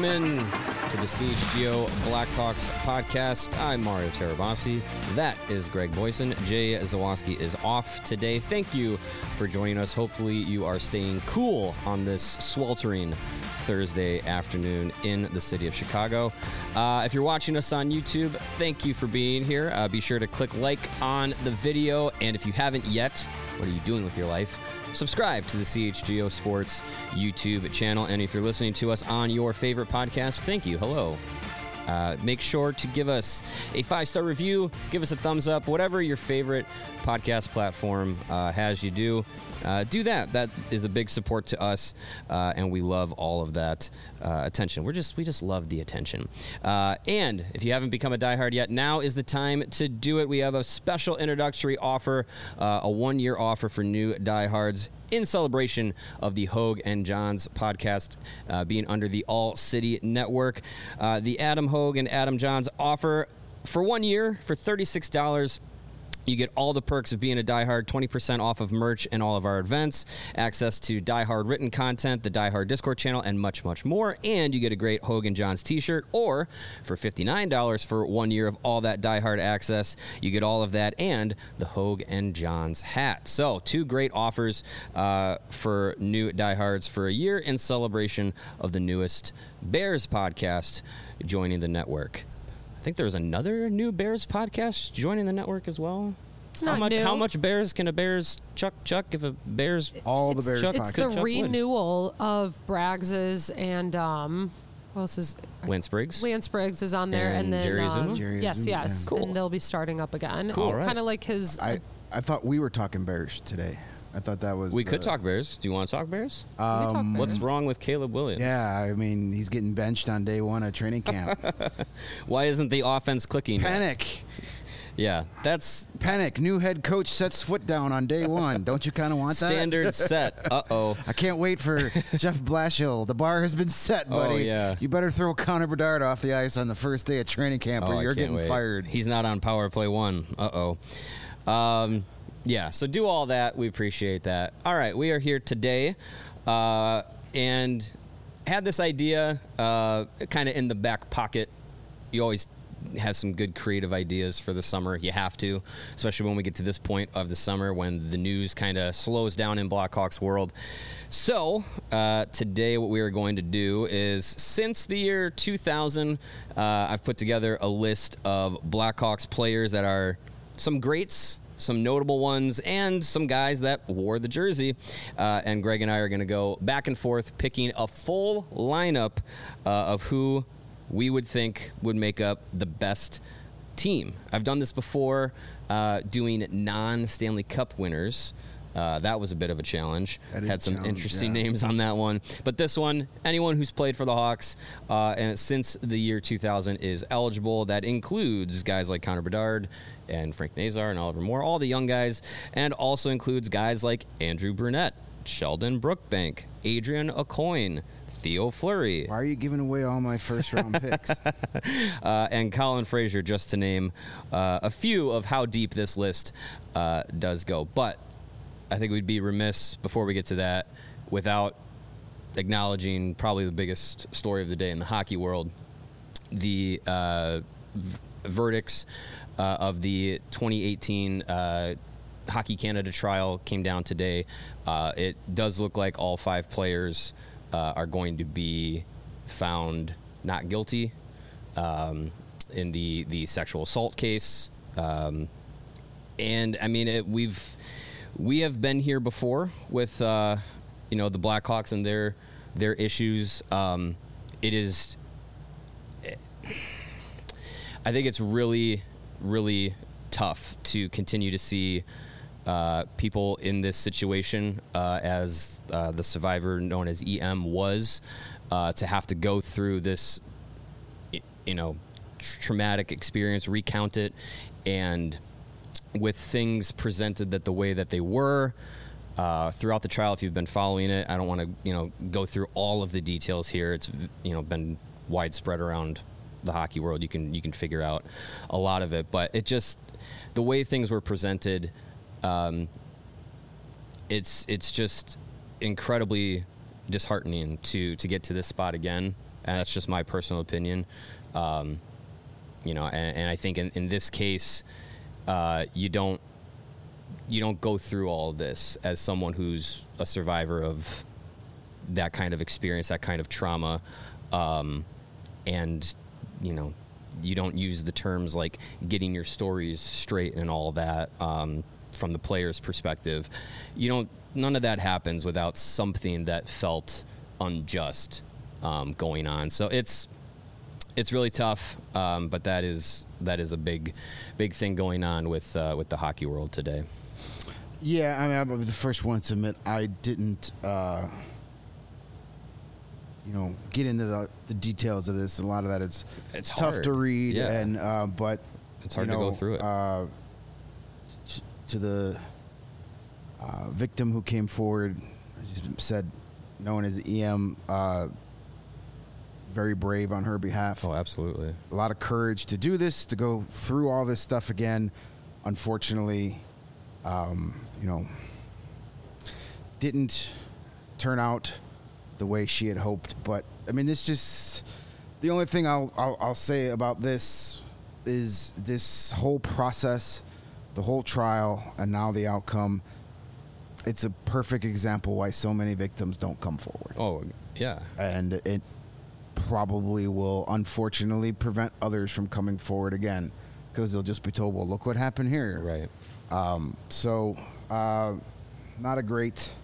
Welcome in to the CHGO Blackhawks podcast. I'm Mario Terabasi. That is Greg Boyson. Jay Zawoski is off today. Thank you for joining us. Hopefully you are staying cool on this sweltering Thursday afternoon in the city of Chicago. If you're watching us on YouTube, thank you for being here. Be sure to click like on the video. And if you haven't yet, what are you doing with your life? Subscribe to the CHGO Sports YouTube channel. And if you're listening to us on your favorite podcast, thank you. Hello. Make sure to give us a 5-star review. Give us a thumbs up. Whatever your favorite podcast platform has you do that. That is a big support to us, and we love all of that attention. We just love the attention. And if you haven't become a diehard yet, now is the time to do it. We have a special introductory offer, a 1-year offer for new diehards in celebration of the Hogue and Johns podcast being under the All City Network. The Adam Hogue and Adam Johns offer for 1 year for $36. You get all the perks of being a diehard, 20% off of merch and all of our events, access to diehard written content, the diehard Discord channel, and much, much more. And you get a great Hogue and Johns t-shirt, or for $59 for 1 year of all that diehard access, you get all of that and the Hogue and Johns hat. So 2 great offers for new diehards for a year in celebration of the newest Bears podcast joining the network. I think there's another new Bears podcast joining the network as well. It's not new. How much Bears can a Bears chuck if a Bears... All the Bears It's the renewal of Braggs's and... what else is... Lance Briggs. Lance Briggs is on there. And then... Jerry Azuma? Yes. Yeah. Cool. And they'll be starting up again. Cool. It's Right. kind of like his... I thought we were talking Bears today. I thought that was... We could talk Bears. Do you want to talk Bears? We talk Bears. What's wrong with Caleb Williams? Yeah, I mean, he's getting benched on day 1 of training camp. Why isn't the offense clicking? Panic. Yeah, that's... Panic. New head coach sets foot down on day 1. Don't you kind of want that? Standard set. Uh-oh. I can't wait for Jeff Blashill. The bar has been set, buddy. Oh, yeah. You better throw Connor Bedard off the ice on the first day of training camp or you're getting fired. He's not on power play 1. Uh-oh. Yeah, so do all that. We appreciate that. All right, we are here today and had this idea kind of in the back pocket. You always have some good creative ideas for the summer. You have to, especially when we get to this point of the summer when the news kind of slows down in Blackhawks world. So today what we are going to do is, since the year 2000, I've put together a list of Blackhawks players that are some greats, some notable ones, and some guys that wore the jersey. And Greg and I are going to go back and forth picking a full lineup of who we would think would make up the best team. I've done this before doing non-Stanley Cup winners. That was a bit of a challenge. Had some interesting names on that one. But this one, anyone who's played for the Hawks and since the year 2000 is eligible. That includes guys like Connor Bedard and Frank Nazar and Oliver Moore, all the young guys, and also includes guys like Andrew Brunette, Sheldon Brookbank, Adrian Aucoin, Theo Fleury. Why are you giving away all my first-round picks? And Colin Fraser, just to name a few of how deep this list does go. But I think we'd be remiss before we get to that without acknowledging probably the biggest story of the day in the hockey world. The verdicts of the 2018 Hockey Canada trial came down today. It does look like all 5 players are going to be found not guilty in the sexual assault case. And I mean, we have been here before with the Blackhawks and their issues. It is, I think it's really, really tough to continue to see people in this situation, as the survivor known as EM was, to have to go through this, traumatic experience, recount it, and with things presented that the way that they were throughout the trial. If you've been following it, I don't want to go through all of the details here. It's been widespread around the hockey world. You can figure out a lot of it, but it just, the way things were presented, it's just incredibly disheartening to get to this spot again. and that's just my personal opinion. You know, and I think in this case, you don't go through all of this as someone who's a survivor of that kind of experience, that kind of trauma, and you know, you don't use the terms like getting your stories straight and all that from the player's perspective. None of that happens without something that felt unjust going on. So it's really tough, but that is a big thing going on with the hockey world today. Yeah, I mean, I'll be the first one to admit I didn't, get into the details of this. A lot of that it's tough hard to read, yeah. And but it's hard to go through it. To the victim who came forward, as you said, known as EM, very brave on her behalf. Oh, absolutely. A lot of courage to do this, to go through all this stuff again. Unfortunately, didn't turn out the way she had hoped. But I mean, it's just the only thing I'll say about this is this whole process, the whole trial, and now the outcome. It's a perfect example why so many victims don't come forward. Oh, yeah. And it probably will, unfortunately, prevent others from coming forward again, because they'll just be told, well, look what happened here. Right. Not a great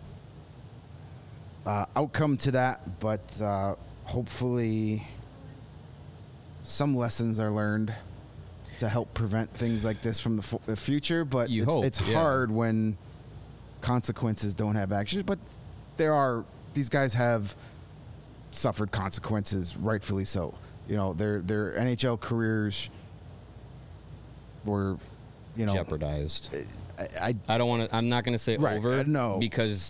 outcome to that, but hopefully some lessons are learned to help prevent things like this from the future. But it's hard when consequences don't have actions. But these guys have suffered consequences, rightfully so. You know, their NHL careers were, jeopardized. I don't want to. I'm not going to say right, over. No, because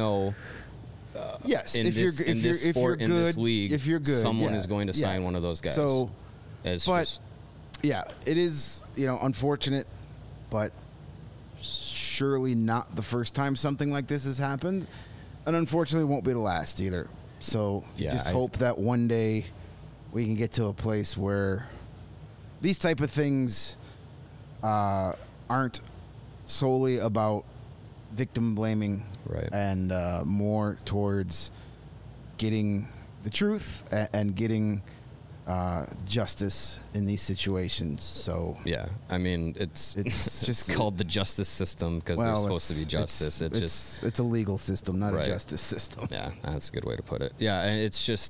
yes, in this sport, in this league, if you're good, someone is going to sign one of those guys. So, yeah, it is unfortunate, but surely not the first time something like this has happened, and unfortunately won't be the last either. So just hope that one day we can get to a place where these type of things aren't solely about victim blaming, right, and more towards getting the truth and getting justice in these situations. So yeah, I mean, it's just called the justice system because there's supposed to be justice. It's a legal system, not a justice system. Yeah, that's a good way to put it. Yeah, and it's just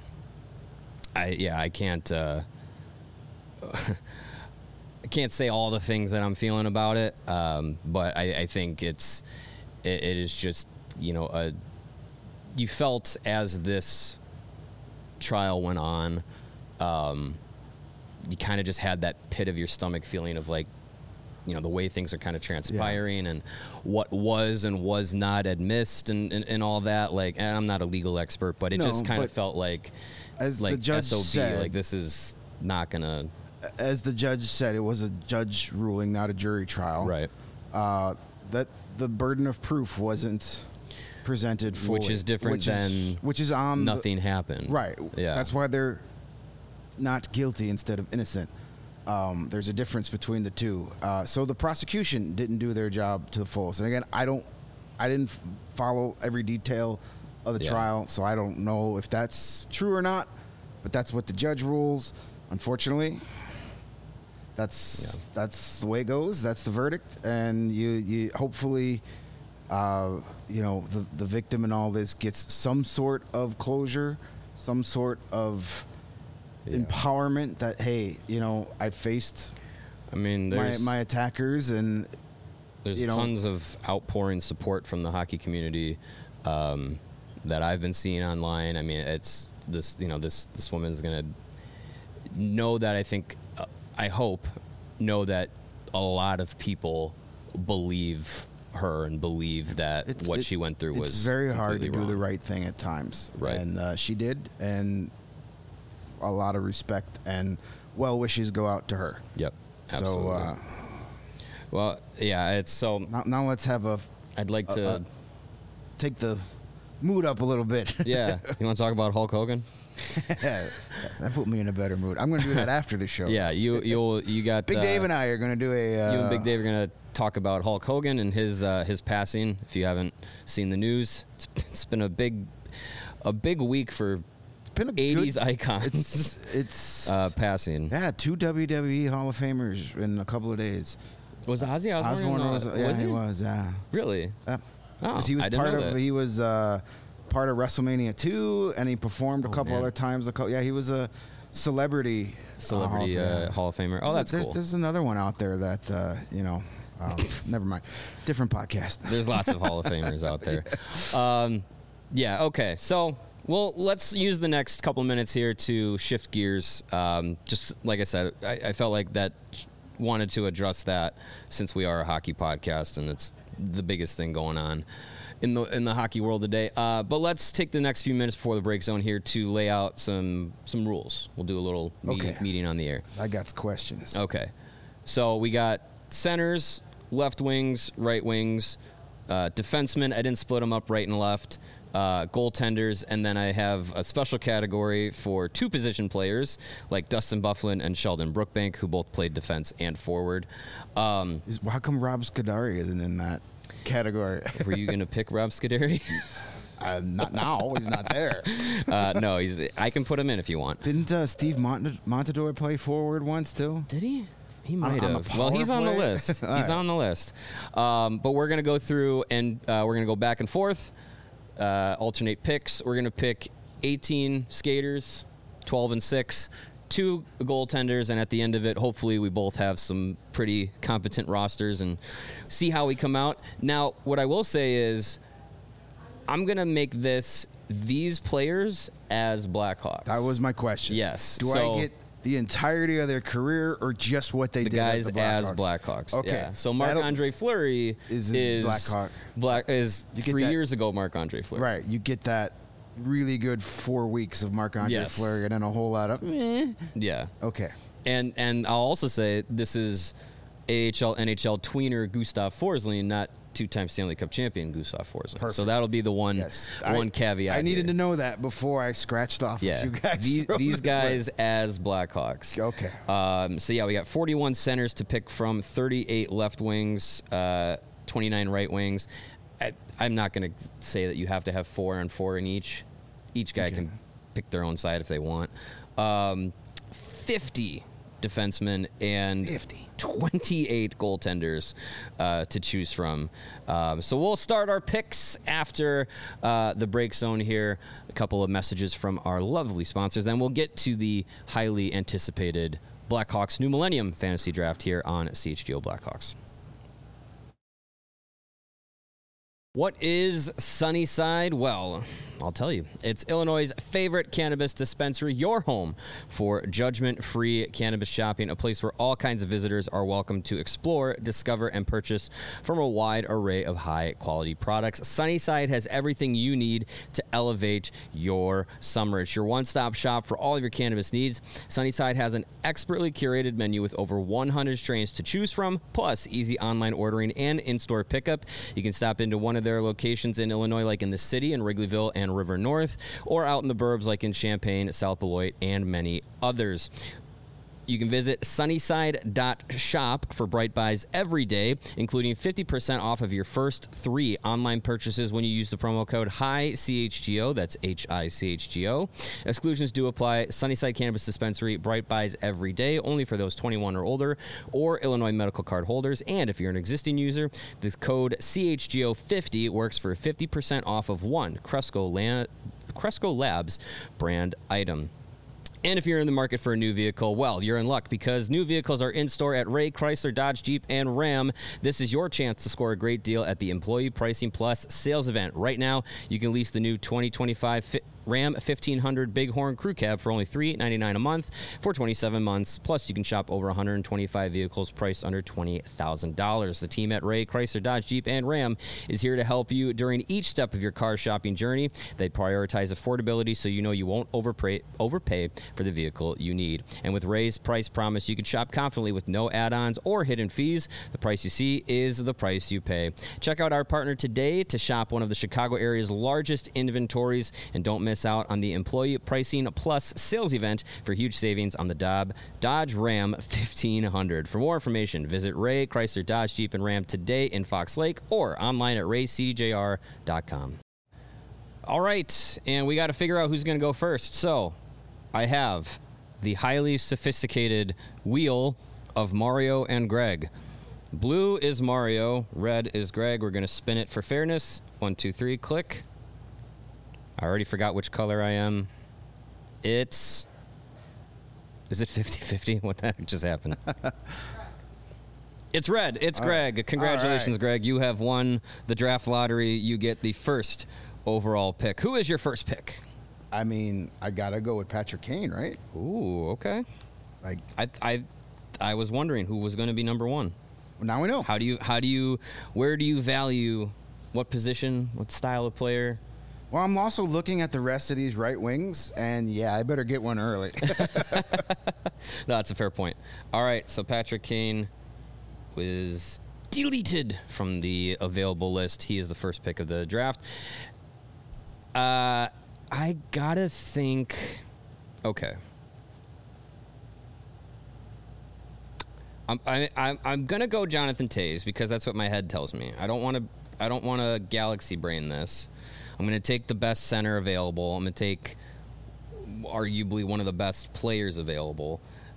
I can't I can't say all the things that I'm feeling about it, but I think it is just you felt as this trial went on, you kind of just had that pit of your stomach feeling of like, the way things are kind of transpiring and what was and was not admissed and all that. Like, and I'm not a legal expert, but it just kind of felt like, as the judge SOB, said, like this is not gonna. As the judge said, it was a judge ruling, not a jury trial. Right. That the burden of proof wasn't presented fully, which is different than which is on nothing happened. Right. Yeah. That's why they're not guilty instead of innocent. There's a difference between the two. So the prosecution didn't do their job to the fullest. And again, I didn't follow every detail of the trial, so I don't know if that's true or not. But that's what the judge rules. Unfortunately, that's the way it goes. That's the verdict, and you hopefully, the victim in all this gets some sort of closure, some sort of empowerment that, hey, I faced my attackers, and there's tons of outpouring support from the hockey community that I've been seeing online. I mean, it's this this woman's gonna know that I hope that a lot of people believe her and believe that what she went through was it's very hard to wrong. do the right thing at times, right? And she did, and a lot of respect and well wishes go out to her. Yep, absolutely. So, well, yeah, it's so. Now let's have I'd like to take the mood up a little bit. Yeah, you want to talk about Hulk Hogan? That put me in a better mood. I'm going to do that after the show. Yeah, you got Big Dave and I are going to do a. You and Big Dave are going to talk about Hulk Hogan and his passing. If you haven't seen the news, it's been a big week for been a 80s good, icons. It's passing. Yeah, 2 WWE Hall of Famers in a couple of days. Was Ozzy Osbourne? He was. Yeah. Really? Because he was part of WrestleMania 2, and he performed a couple other times. He was a celebrity Hall of Famer. Oh, that's cool. There's another one out there that never mind. Different podcast. There's lots of Hall of Famers out there. Okay. So, well, let's use the next couple of minutes here to shift gears. Just like I said, I felt like that wanted to address that since we are a hockey podcast and it's the biggest thing going on in the hockey world today. But let's take the next few minutes before the break zone here to lay out some rules. We'll do a little meeting on the air. I got questions. Okay. So we got centers, left wings, right wings, defensemen. I didn't split them up right and left. Goaltenders, and then I have a special category for 2 position players like Dustin Byfuglien and Sheldon Brookbank, who both played defense and forward. How come Rob Scuderi isn't in that category? Were you going to pick Rob Scuderi? Not now. He's not there. No, I can put him in if you want. Didn't Steve Montador play forward once too? Did he? He might have. Well, he's on the list. He's on the list. But we're going to go through and we're going to go back and forth, alternate picks. We're going to pick 18 skaters, 12 and 6, 2 goaltenders, and at the end of it, hopefully we both have some pretty competent rosters and see how we come out. Now, what I will say is I'm going to make these players as Blackhawks. That was my question. Yes. Do I get the entirety of their career or just what they did as the guys Blackhawks? as Blackhawks? Okay. Yeah. So Marc-Andre Fleury is Blackhawk. Is 3 years ago Marc-Andre Fleury. Right. You get that really good 4 weeks of Marc-Andre Fleury and then a whole lot of Yeah. Okay. And I'll also say this is AHL, NHL tweener Gustav Forsling, not 2-time Stanley Cup champion Gustav Forsling. Perfect. So that'll be the one caveat. I needed to know that before I scratched off a few guys. These guys as Blackhawks. Okay. We got 41 centers to pick from, 38 left wings, 29 right wings. I'm not going to say that you have to have 4 and 4 in each. Each guy can pick their own side if they want. 50 defensemen and 28 goaltenders to choose from. So we'll start our picks after the break zone here. A couple of messages from our lovely sponsors. Then we'll get to the highly anticipated Blackhawks New Millennium Fantasy Draft here on CHGO Blackhawks. What is Sunnyside? Well, I'll tell you. It's Illinois' favorite cannabis dispensary, your home for judgment-free cannabis shopping, a place where all kinds of visitors are welcome to explore, discover, and purchase from a wide array of high-quality products. Sunnyside has everything you need to elevate your summer. It's your one-stop shop for all of your cannabis needs. Sunnyside has an expertly curated menu with over 100 strains to choose from, plus easy online ordering and in-store pickup. You can stop into one of their locations in Illinois, like in the city, in Wrigleyville and River North, or out in the burbs like in Champaign, South Beloit, and many others. You can visit sunnyside.shop for bright buys every day, including 50% off of your first 3 online purchases when you use the promo code HICHGO. That's HICHGO. Exclusions do apply. Sunnyside Cannabis Dispensary, bright buys every day, only for those 21 or older, or Illinois medical card holders. And if you're an existing user, the code CHGO50 works for 50% off of one Cresco Labs brand item. And if you're in the market for a new vehicle, well, you're in luck because new vehicles are in store at Ray Chrysler, Dodge, Jeep, and Ram. This is your chance to score a great deal at the Employee Pricing Plus sales event. Right now, you can lease the new 2025 Ram 1500 Bighorn Crew Cab for only $399 a month for 27 months. Plus, you can shop over 125 vehicles priced under $20,000. The team at Ray Chrysler, Dodge, Jeep, and Ram is here to help you during each step of your car shopping journey. They prioritize affordability so you know you won't overpay for the vehicle you need. And with Ray's price promise, you can shop confidently with no add-ons or hidden fees. The price you see is the price you pay. Check out our partner today to shop one of the Chicago area's largest inventories, and don't miss miss out on the Employee Pricing Plus sales event for huge savings on the Dodge Ram 1500. For more information, visit Ray Chrysler Dodge Jeep and Ram today in Fox Lake or online at raycdjr.com. All right, and we got to figure out who's going to go first. So I have the highly sophisticated wheel of Mario and Greg. Blue is Mario, red is Greg. We're going to spin it for fairness. 1, 2, 3, click. I already forgot which color I am. Is it 50-50? What the heck just happened? It's red. It's Greg. Congratulations, Greg. You have won the draft lottery. You get the first overall pick. Who is your first pick? I mean, I got to go with Patrick Kane, right? Ooh, okay. Like, I was wondering who was going to be number one. Well, now we know. Where do you value, what position, what style of player? Well, I'm also looking at the rest of these right wings, and yeah, I better get one early. No, that's a fair point. All right, so Patrick Kane was deleted from the available list. He is the first pick of the draft. I gotta think. Okay. I'm gonna go Jonathan Toews because that's what my head tells me. I don't want to galaxy brain this. I'm gonna take the best center available. I'm gonna take arguably one of the best players available.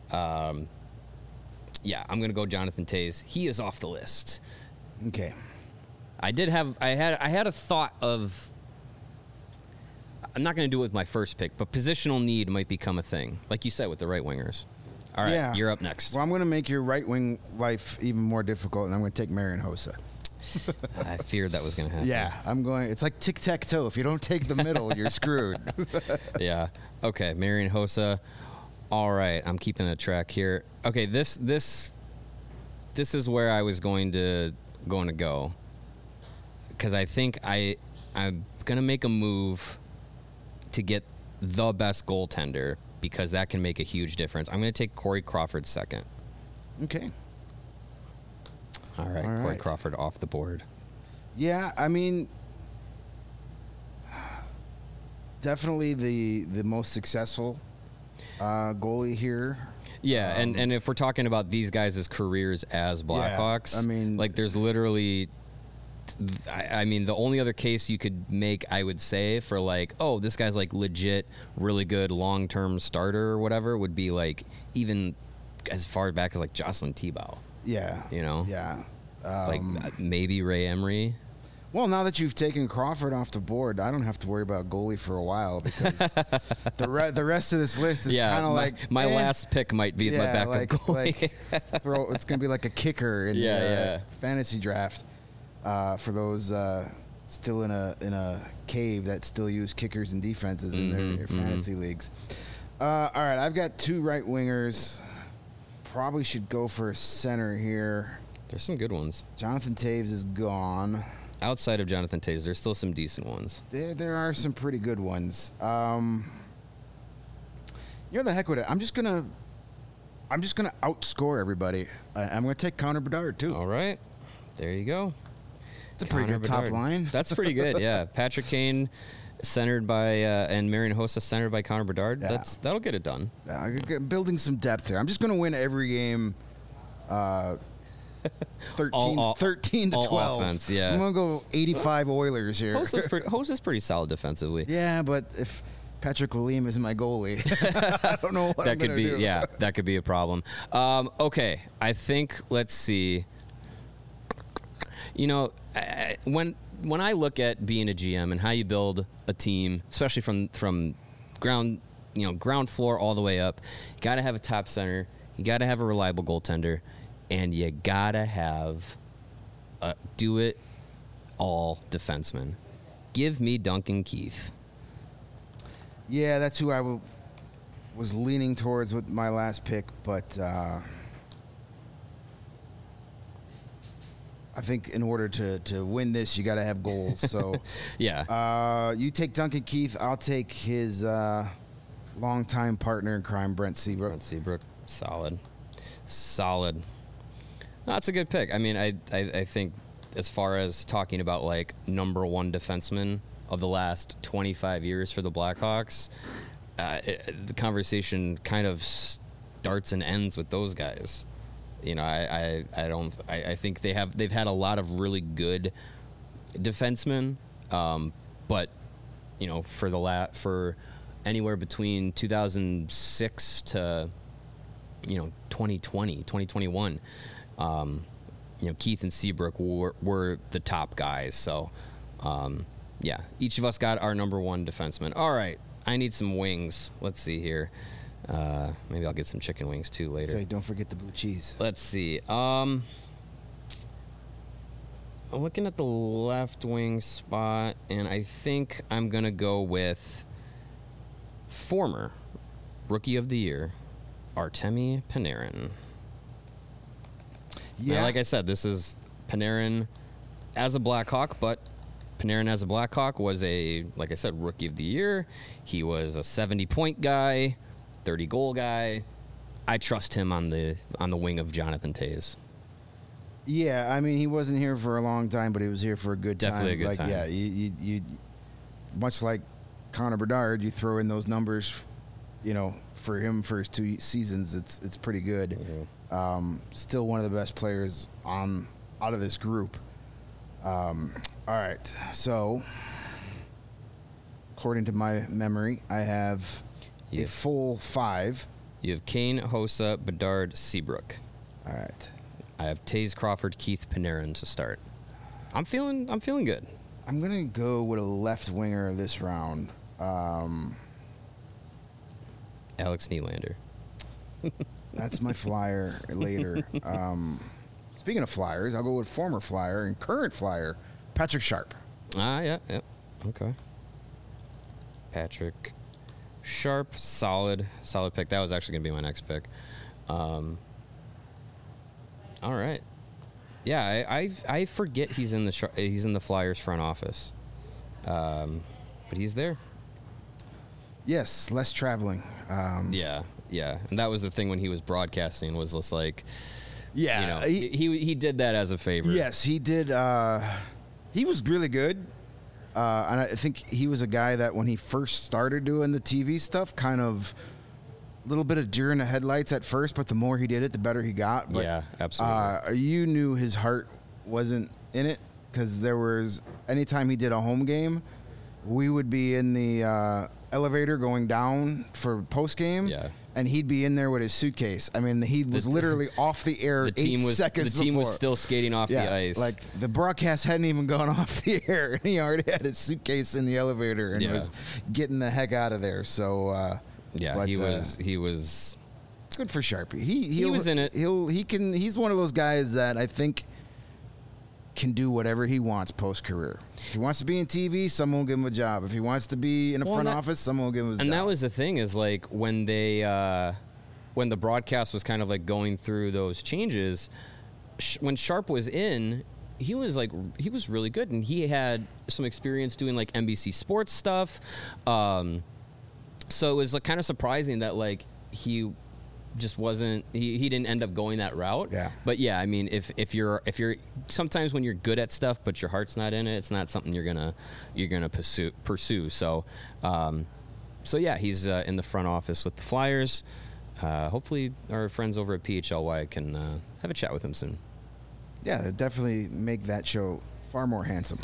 Yeah, I'm gonna go Jonathan Toews. He is off the list. Okay. I had a thought of. I'm not going to do it with my first pick, but positional need might become a thing, like you said with the right wingers. All right, yeah. You're up next. Well, I'm going to make your right wing life even more difficult, and I'm going to take Marian Hossa. I feared that was going to happen. Yeah, it's like tic-tac-toe. If you don't take the middle, you're screwed. Yeah. Okay, Marian Hossa. All right, I'm keeping a track here. Okay, this is where I was going to go, because I think I'm going to make a move to get the best goaltender, because that can make a huge difference. I'm going to take Corey Crawford second. Okay. All right, Corey Crawford off the board. Yeah, I mean, definitely the most successful goalie here. Yeah, and if we're talking about these guys' careers as Blackhawks, I mean, like there's literally. I mean, the only other case you could make, I would say, for like, oh, this guy's like legit, really good long-term starter or whatever, would be like even as far back as like Jocelyn Thibault. Yeah. You know? Yeah. Like maybe Ray Emery. Well, now that you've taken Crawford off the board, I don't have to worry about goalie for a while, because the rest of this list is kind of like my last pick might be my backup goalie. It's going to be like a kicker in the fantasy draft. For those still in a cave that still use kickers and defenses in their fantasy leagues. All right, I've got two right wingers. Probably should go for a center here. There's some good ones. Jonathan Toews is gone. Outside of Jonathan Toews, there's still some decent ones. There are some pretty good ones. The heck with it. I'm just gonna outscore everybody. I'm gonna take Connor Bedard too. All right, there you go. It's a pretty good top line. That's pretty good, yeah. Patrick Kane centered by and Marian Hossa centered by Connor Bedard. Yeah. That'll get it done. Building some depth here. I'm just going to win every game 13 to 12. Offense, yeah. I'm going to go 85 Oilers here. Hossa's pretty solid defensively. Yeah, but if Patrick Lalime isn't my goalie, I don't know what that I'm could be do. Yeah, that could be a problem. Okay, I think, let's see. You know, when I look at being a GM and how you build a team, especially from ground floor all the way up, you got to have a top center, you got to have a reliable goaltender, and you got to have a do-it-all defenseman. Give me Duncan Keith. Yeah, that's who I was leaning towards with my last pick, but I think in order to win this, you got to have goals. So yeah, you take Duncan Keith. I'll take his longtime partner in crime, Brent Seabrook. Brent Seabrook, solid. That's a good pick. I mean, I think as far as talking about like number one defenseman of the last 25 years for the Blackhawks, the conversation kind of starts and ends with those guys. You know, I think they've had a lot of really good defensemen, but you know, for anywhere between 2006 to 2020, 2021, Keith and Seabrook were the top guys. So, yeah, each of us got our number one defenseman. All right, I need some wings. Let's see here. Maybe I'll get some chicken wings too later. Say, don't forget the blue cheese. Let's see. I'm looking at the left wing spot, and I think I'm gonna go with former Rookie of the Year, Artemi Panarin. Yeah, now, like I said, this is Panarin as a Blackhawk, but Panarin as a Blackhawk was like I said, Rookie of the Year. He was a 70-point guy, 30-goal guy. I trust him on the wing of Jonathan Toews. Yeah, I mean, he wasn't here for a long time, but he was here for a good Definitely time. a good time. Yeah, you much like Connor Bedard, you throw in those numbers, for him for his 2 seasons, it's pretty good. Mm-hmm. Still one of the best players out of this group. All right, so according to my memory, I have a full 5. You have Kane, Hossa, Bedard, Seabrook. All right. I have Toews, Crawford, Keith, Panarin to start. I'm feeling good. I'm gonna go with a left winger this round. Alex Nylander. That's my flyer later. Speaking of flyers, I'll go with former flyer and current flyer, Patrick Sharp. Yeah. Okay. Patrick Sharp, solid pick. That was actually gonna be my next pick. All right. Yeah, I forget he's in the Flyers front office, but he's there. Yes, less traveling. Yeah, and that was the thing when he was broadcasting, was just like, Yeah, he did that as a favor. Yes, he did. He was really good, and I think he was a guy that when he first started doing the TV stuff, kind of a little bit of deer in the headlights at first, but the more he did it, the better he got. But, yeah, absolutely. You knew his heart wasn't in it, because there was, anytime he did a home game, we would be in the elevator going down for post game. Yeah. And he'd be in there with his suitcase. I mean, he was literally off the air 8 seconds The team before. was still skating off the ice. Like, the broadcast hadn't even gone off the air, and he already had his suitcase in the elevator and was getting the heck out of there. So, but, he was good for Sharpie. He was in it. He's one of those guys that I think can do whatever he wants post-career. If he wants to be in TV, someone will give him a job. If he wants to be in a front office, someone will give him a job. And that was the thing, is like when the broadcast was kind of like going through those changes, when Sharp was in, he was really good, and he had some experience doing like NBC Sports stuff. So it was like kind of surprising that like he just wasn't, he didn't end up going that route. Yeah. But yeah, I mean, if you're sometimes when you're good at stuff but your heart's not in it, it's not something you're gonna pursue. So yeah, he's in the front office with the Flyers. Hopefully our friends over at PHLY can have a chat with him soon. Yeah, they definitely make that show far more handsome.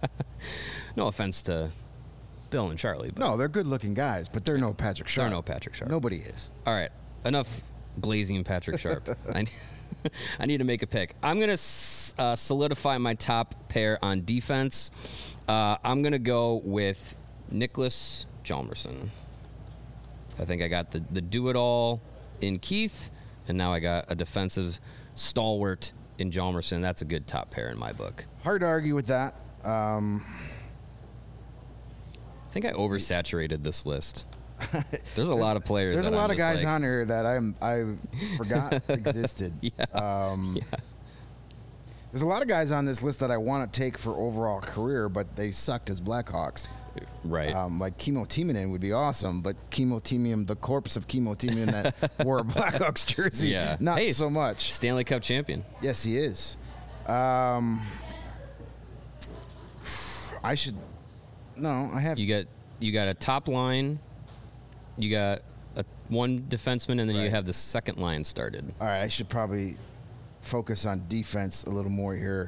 No offense to Bill and Charlie, but No, they're good-looking guys, but they're no Patrick Sharp. they're no Patrick Sharp. Nobody is. All right, enough glazing Patrick Sharp. I need to make a pick. I'm going to solidify my top pair on defense. I'm going to go with Nicholas Hjalmarsson. I think I got the do-it-all in Keith, and now I got a defensive stalwart in Hjalmarsson. That's a good top pair in my book. Hard to argue with that. I think I oversaturated this list. There's a lot of players. There's a lot of guys like, on here that I forgot existed. There's a lot of guys on this list that I want to take for overall career, but they sucked as Blackhawks. Right. Like Kimmo Timonen would be awesome, but Kimmo Timonen, the corpse of Kimmo Timonen that wore a Blackhawks jersey, not so much. Stanley Cup champion. Yes, he is. I should No, I have. You got a top line, you got one defenseman, and then you have the second line started. All right, I should probably focus on defense a little more here.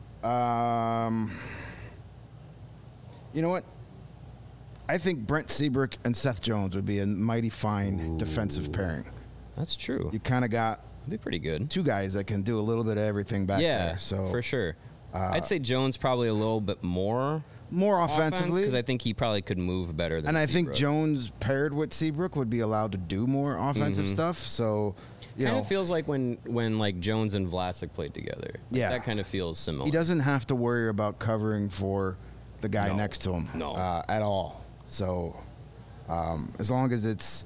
You know what? I think Brent Seabrook and Seth Jones would be a mighty fine defensive pairing. That's true. You kind of got That'd be pretty good. two guys that can do a little bit of everything back there. So for sure. I'd say Jones probably a little bit more offensively, because I think he probably could move better than and I Seabrook. think Jones paired with Seabrook would be allowed to do more offensive stuff. So, kind of feels like when like Jones and Vlasic played together. Like, Yeah. that kind of feels similar. he doesn't have to worry about covering for the guy next to him at all. So, as long as it's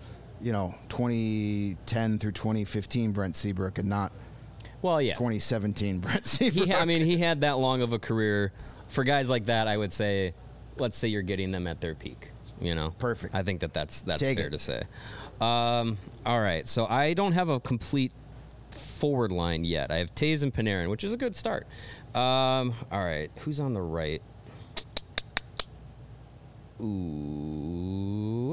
2010 through 2015 Brent Seabrook and not 2017 Brent Seabrook. He had that long of a career. For guys like that, I would say, let's say you're getting them at their peak. Perfect. I think that's Take fair it. to say. All right, so I don't have a complete forward line yet. I have Taves and Panarin, which is a good start. All right, who's on the right? Ooh.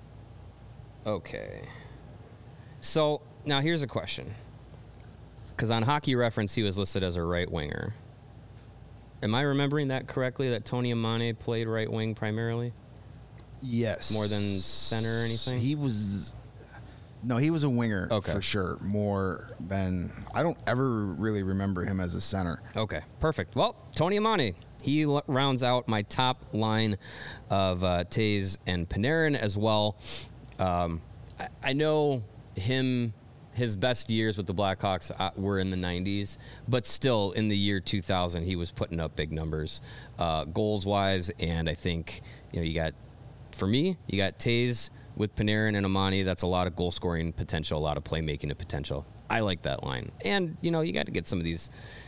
Okay. So now here's a question. Because on Hockey Reference, he was listed as a right winger. Am I remembering that correctly, that Tony Amane played right wing primarily? Yes. More than center or anything? He was a winger Okay. for sure. More than I don't ever really remember him as a center. Okay, perfect. Well, Tony Amane, he rounds out my top line of Taves and Panarin as well. I know his best years with the Blackhawks were in the 90s, but still in the year 2000, he was putting up big numbers goals-wise, and I think, you got Taves with Panarin and Amani. That's a lot of goal-scoring potential, a lot of playmaking potential. I like that line. And, you got to get some of these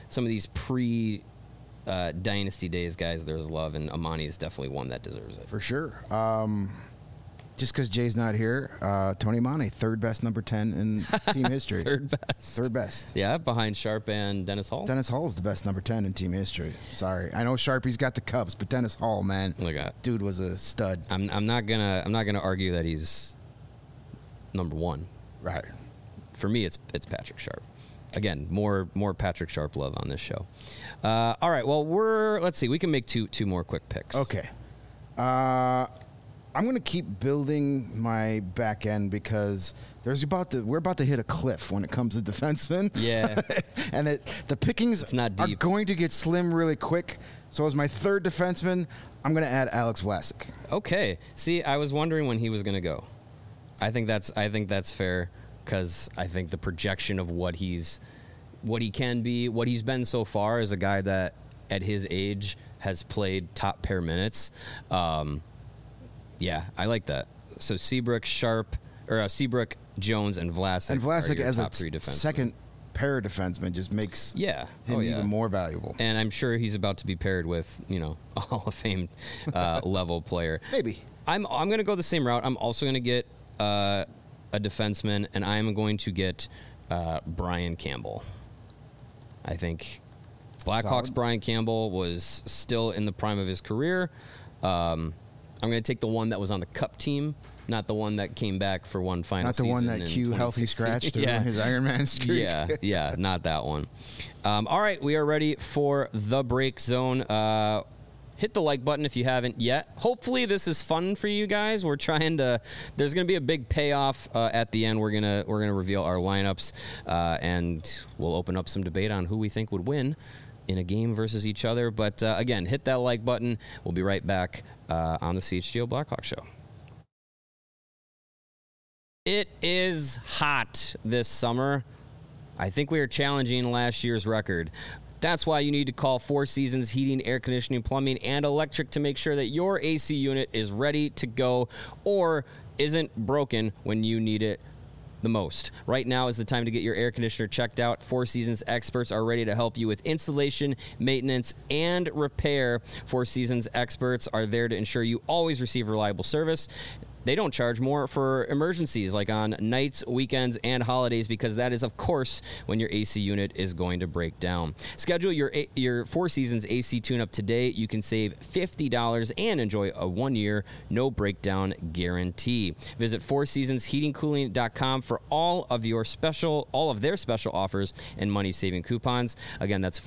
pre-dynasty days guys there's love, and Amani is definitely one that deserves it. For sure. Just because Jay's not here, Tony Amane, third best number 10 in team history. Third best. Yeah, behind Sharp and Dennis Hall. Dennis Hall is the best number 10 in team history. Sorry, I know Sharpie's got the Cubs, but Dennis Hall, man, Look at dude was a stud. I'm not gonna argue that he's number one. Right. For me, it's Patrick Sharp. Again, more Patrick Sharp love on this show. All right, well let's see. We can make two more quick picks. Okay. I'm going to keep building my back end because we're about to hit a cliff when it comes to defensemen. Yeah. And the pickings not are deep. going to get slim really quick. So as my third defenseman, I'm going to add Alex Vlasic. Okay. See, I was wondering when he was going to go. I think that's fair because I think the projection of what he can be, what he's been so far as a guy that at his age has played top pair minutes. Yeah, I like that. So Seabrook, Jones, and Vlasic. And Vlasic as a three defensemen. second pair defenseman just makes him even more valuable. And I'm sure he's about to be paired with, a Hall of Fame level player. Maybe. I'm going to go the same route. I'm also going to get a defenseman, and I'm going to get Brian Campbell. I think Blackhawks Solid. Brian Campbell was still in the prime of his career. I'm going to take the one that was on the Cup team, not the one that came back for one final season. Not the one that Q healthy scratched through his Ironman streak. Yeah, not that one. All right, we are ready for the break zone. Hit the like button if you haven't yet. Hopefully this is fun for you guys. We're trying to. There's going to be a big payoff at the end. We're gonna reveal our lineups, and we'll open up some debate on who we think would win in a game versus each other. But again, hit that like button. We'll be right back on the CHGO Blackhawk Show. It is hot this summer. I think we are challenging last year's record. That's why you need to call Four Seasons Heating, Air Conditioning, Plumbing, and Electric to make sure that your AC unit is ready to go or isn't broken when you need it the most. Right now is the time to get your air conditioner checked out. Four Seasons experts are ready to help you with installation, maintenance, and repair. Four Seasons experts are there to ensure you always receive reliable service. they don't charge more for emergencies like on nights, weekends, and holidays because that is, of course, when your AC unit is going to break down. Schedule your Four Seasons AC tune-up today. You can save $50 and enjoy a 1-year no breakdown guarantee. Visit fourseasonsheatingcooling.com for all of their special offers and money-saving coupons. Again, that's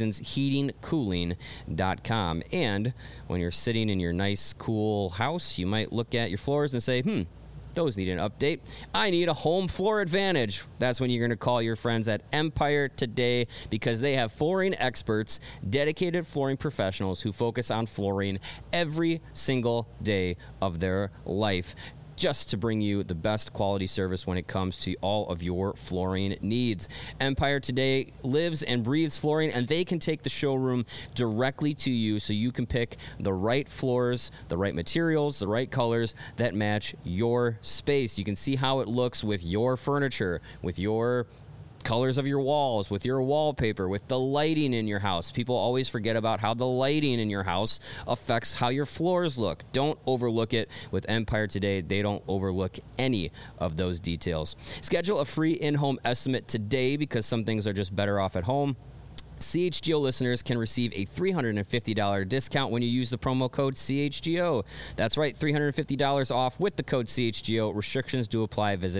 fourseasonsheatingcooling.com. And when you're sitting in your nice, cool house, you might look at your floors and say, those need an update. I need a home floor advantage. That's when you're going to call your friends at Empire Today because they have flooring experts, dedicated flooring professionals who focus on flooring every single day of their life, just to bring you the best quality service when it comes to all of your flooring needs. Empire Today lives and breathes flooring, and they can take the showroom directly to you so you can pick the right floors, the right materials, the right colors that match your space. You can see how it looks with your furniture, with your colors of your walls, with your wallpaper, with the lighting in your house. People always forget about how the lighting in your house affects how your floors look. Don't overlook it. With Empire Today, they don't overlook any of those details. Schedule a free in-home estimate today because some things are just better off at home. CHGO listeners can receive a $350 discount when you use the promo code CHGO. That's right, $350 off with the code CHGO. Restrictions do apply. Visit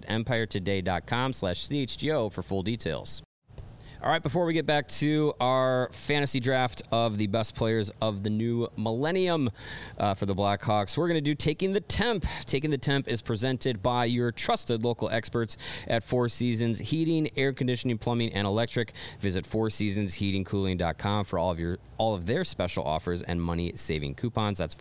empiretoday.com/CHGO for full details. All right, before we get back to our fantasy draft of the best players of the new millennium for the Blackhawks, we're going to do Taking the Temp. Taking the Temp is presented by your trusted local experts at Four Seasons Heating, Air Conditioning, Plumbing, and Electric. Visit fourseasonsheatingcooling.com for all of their special offers and money-saving coupons. That's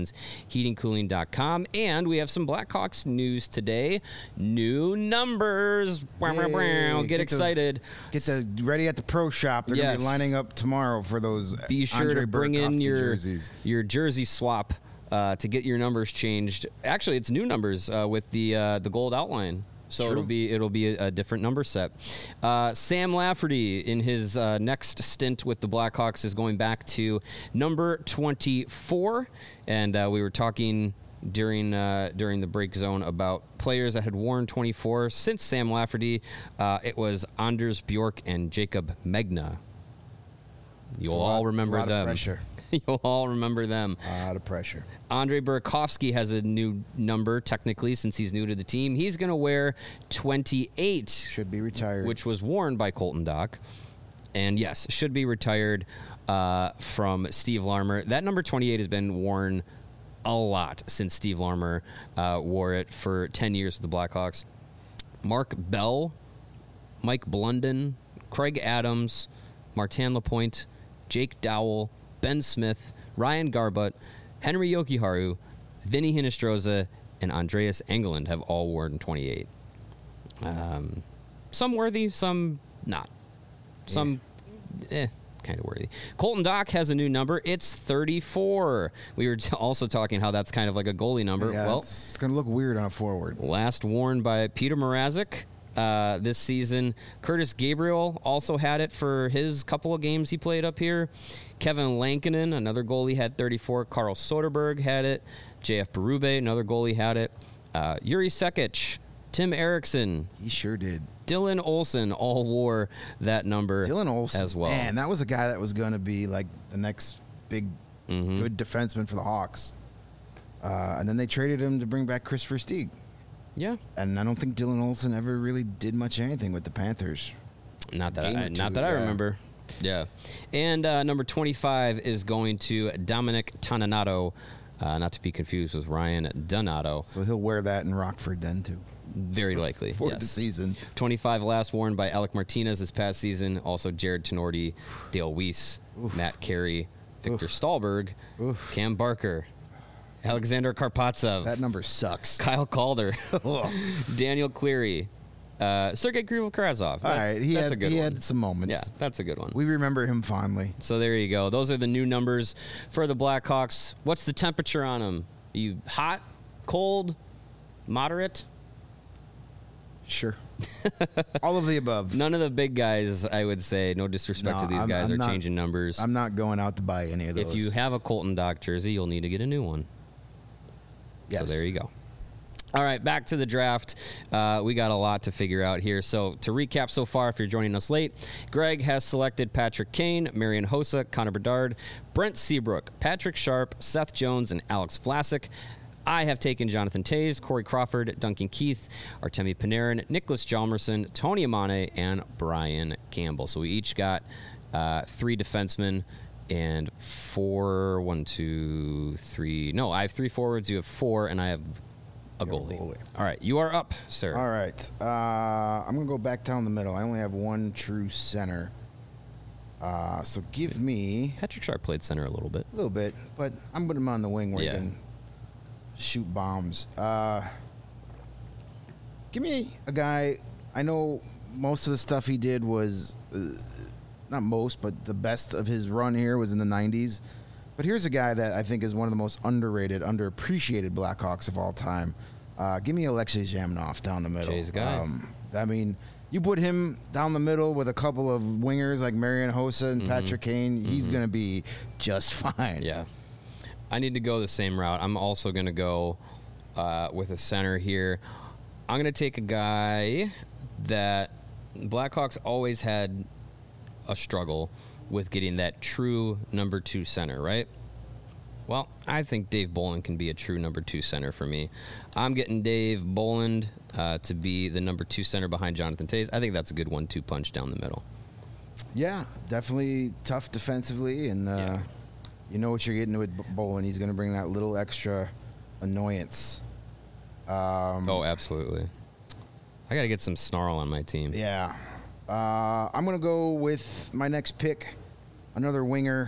fourseasonsheatingcooling.com. And we have some Blackhawks news today. New numbers. Get excited. Ready at the pro shop. They're going to be lining up tomorrow for those. Be sure Andre to bring in jerseys. your jersey swap to get your numbers changed. Actually, it's new numbers with the gold outline. So True. it'll be a different number set. Sam Lafferty in his next stint with the Blackhawks is going back to number 24, and we were talking during the break zone about players that had worn 24 since Sam Lafferty. It was Anders Bjork and Jacob Megna. You'll all remember them. Pressure. You'll all remember them. A lot of pressure. Andrei Burakovsky has a new number, technically, since he's new to the team. He's going to wear 28. Should be retired. Which was worn by Colton Dach. And, yes, should be retired from Steve Larmer. That number 28 has been worn a lot since Steve Larmer wore it for 10 years with the Blackhawks. Mark Bell, Mike Blunden, Craig Adams, Martin Lapointe, Jake Dowell, Ben Smith, Ryan Garbutt, Henry Jokiharju, Vinny Hinostroza, and Andreas Engeland have all worn 28. Some worthy, some not. Some kind of worthy. Colton Dach has a new number. It's 34. We were also talking how that's kind of like a goalie number. Yeah, well, it's going to look weird on a forward. Last worn by Peter Mrazek. This season. Curtis Gabriel also had it for his couple of games he played up here. Kevin Lankinen, another goalie, had 34. Carl Soderberg had it. JF Berube, another goalie, had it. Yuri Sekic, Tim Erickson. He sure did. Dylan Olsen all wore that number Dylan Olsen, as well. Man, that was a guy that was going to be like the next big, good defenseman for the Hawks. And then they traded him to bring back Chris Versteeg. Yeah. And I don't think Dylan Olsen ever really did much anything with the Panthers. Not that I remember. Yeah. And number 25 is going to Dominic Toninato, not to be confused with Ryan Donato. So he'll wear that in Rockford then, too. Very likely. For the season. 25 last worn by Alec Martinez this past season. Also Jared Tenorti, Dale Weiss, Matt Carey, Victor Stahlberg, Cam Barker, Alexander Karpatsev. That number sucks. Kyle Calder. Daniel Cleary. Sergei Krivokrazov. All right, he had some moments. Yeah, that's a good one. We remember him fondly. So there you go. Those are the new numbers for the Blackhawks. What's the temperature on them? Are you hot, cold, moderate? Sure. All of the above. None of the big guys, I would say. No disrespect to these guys, are changing numbers. I'm not going out to buy any of those. If you have a Colton Dach jersey, you'll need to get a new one. Yes. So there you go. All right, back to the draft. We got a lot to figure out here. So to recap so far, if you're joining us late, Greg has selected Patrick Kane, Marian Hossa, Connor Bedard, Brent Seabrook, Patrick Sharp, Seth Jones, and Alex Vlasic. I have taken Jonathan Toews, Corey Crawford, Duncan Keith, Artemi Panarin, Nicholas Hjalmarsson, Tony Amane, and Brian Campbell. So we each got 3 defensemen and 4, 1, 2, 3. No, I have 3 forwards. You have 4, and I have a goalie. All right, you are up, sir. All right. I'm going to go back down the middle. I only have one true center. So give me... Patrick Sharp played center a little bit. A little bit, but I'm putting him on the wing where Yeah. he can shoot bombs. Give me a guy... I know most of the stuff he did was... not most, but the best of his run here was in the 90s. But here's a guy that I think is one of the most underrated, underappreciated Blackhawks of all time. Give me Alexei Zhamnov down the middle. Jay's guy. I mean, you put him down the middle with a couple of wingers like Marian Hossa and Patrick Kane, he's going to be just fine. Yeah. I need to go the same route. I'm also going to go with a center here. I'm going to take a guy that Blackhawks always had a struggle with getting that true number 2 center, right? Well, I think Dave Bolland can be a true number 2 center for me. I'm getting Dave Bolland to be the number 2 center behind Jonathan Toews. I think that's a good 1-2 punch down the middle. Yeah, definitely tough defensively, and you know what you're getting with Bolland. He's going to bring that little extra annoyance. Oh, absolutely. I got to get some snarl on my team. Yeah. I'm going to go with my next pick, another winger.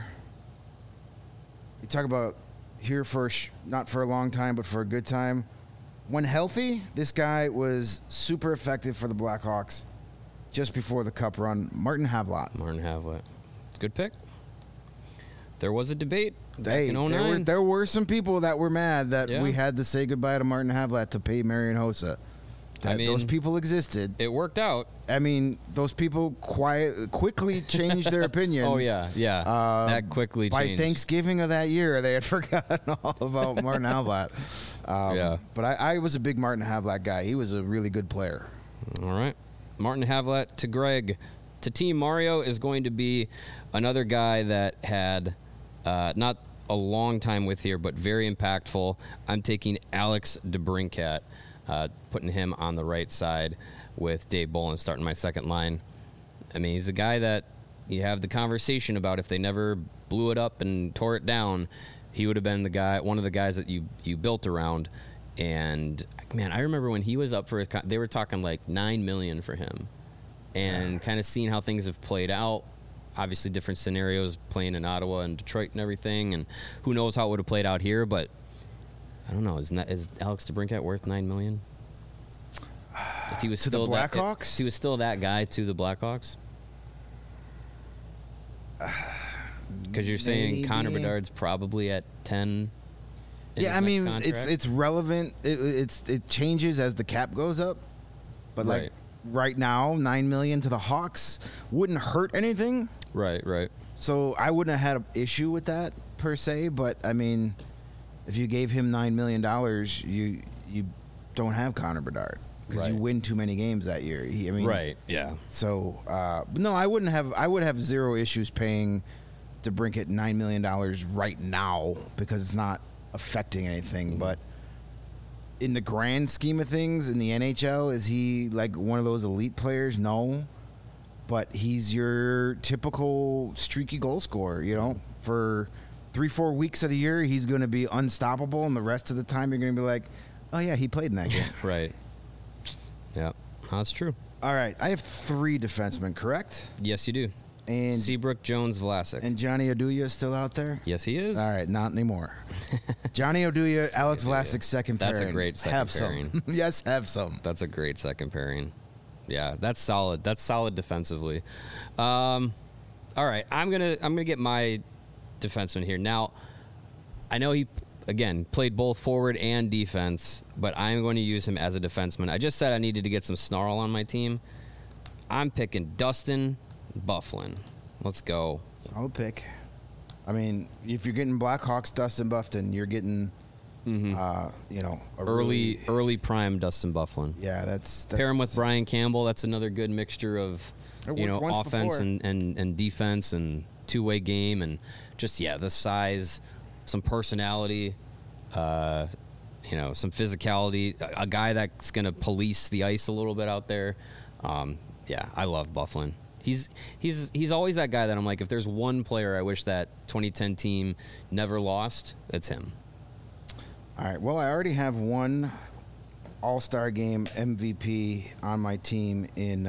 You talk about here for not for a long time, but for a good time. When healthy, this guy was super effective for the Blackhawks just before the Cup run. Martin Havlat. Martin Havlat. Good pick. There was a debate back in 09. There were some people that were mad that Yeah. we had to say goodbye to Martin Havlat to pay Marian Hossa. Those people existed. It worked out. I mean, those people quickly changed their opinions. Oh, yeah. That quickly by changed. Thanksgiving of that year, they had forgotten all about Martin Havlat. Yeah. But I was a big Martin Havlat guy. He was a really good player. All right. Martin Havlat to Greg. To Team Mario is going to be another guy that had not a long time with here, but very impactful. I'm taking Alex DeBrincat. Putting him on the right side with Dave Bolland starting my second line. I mean, he's a guy that you have the conversation about if they never blew it up and tore it down, he would have been the guy, one of the guys that you built around. And, man, I remember when he was up for it, they were talking like $9 million for him. And kind of seeing how things have played out, obviously different scenarios playing in Ottawa and Detroit and everything, and who knows how it would have played out here, but I don't know. Is Alex DeBrincat worth $9 million? If he was to still the Blackhawks, if he was still that guy to the Blackhawks. Because you're saying Connor Bedard's probably at 10. Yeah, I mean it's relevant. It changes as the cap goes up, but like right now, $9 million to the Hawks wouldn't hurt anything. Right. So I wouldn't have had an issue with that per se, but I mean, if you gave him $9 million, you don't have Connor Bedard because you win too many games that year. Yeah. So, but no, I would have zero issues paying DeBrincat $9 million right now because it's not affecting anything. But in the grand scheme of things, in the NHL, is he like one of those elite players? No. But he's your typical streaky goal scorer, for 3-4 weeks of the year, he's going to be unstoppable, and the rest of the time, you're going to be like, oh, yeah, he played in that game. Right. Yeah, that's true. All right, I have 3 defensemen, correct? Yes, you do. And Seabrook, Jones, Vlasic. And Johnny Oduya is still out there? Yes, he is. All right, not anymore. Johnny Oduya, Alex Vlasic, second pairing. That's a great second pairing. Some. Yes, have some. That's a great second pairing. Yeah, that's solid. That's solid defensively. All right, I'm gonna get my defenseman here. Now, I know he, again, played both forward and defense, but I'm going to use him as a defenseman. I just said I needed to get some snarl on my team. I'm picking Dustin Byfuglien. Let's go. Solid pick. I mean, if you're getting Blackhawks, Dustin Byfuglien, you're getting You know, early prime Dustin Byfuglien. Yeah, that's pair him with Brian Campbell. That's another good mixture of offense and defense and two-way game and just the size, some personality, some physicality. A guy that's going to police the ice a little bit out there. I love Byfuglien. He's always that guy that I'm like, if there's one player I wish that 2010 team never lost, it's him. All right. Well, I already have one All-Star Game MVP on my team in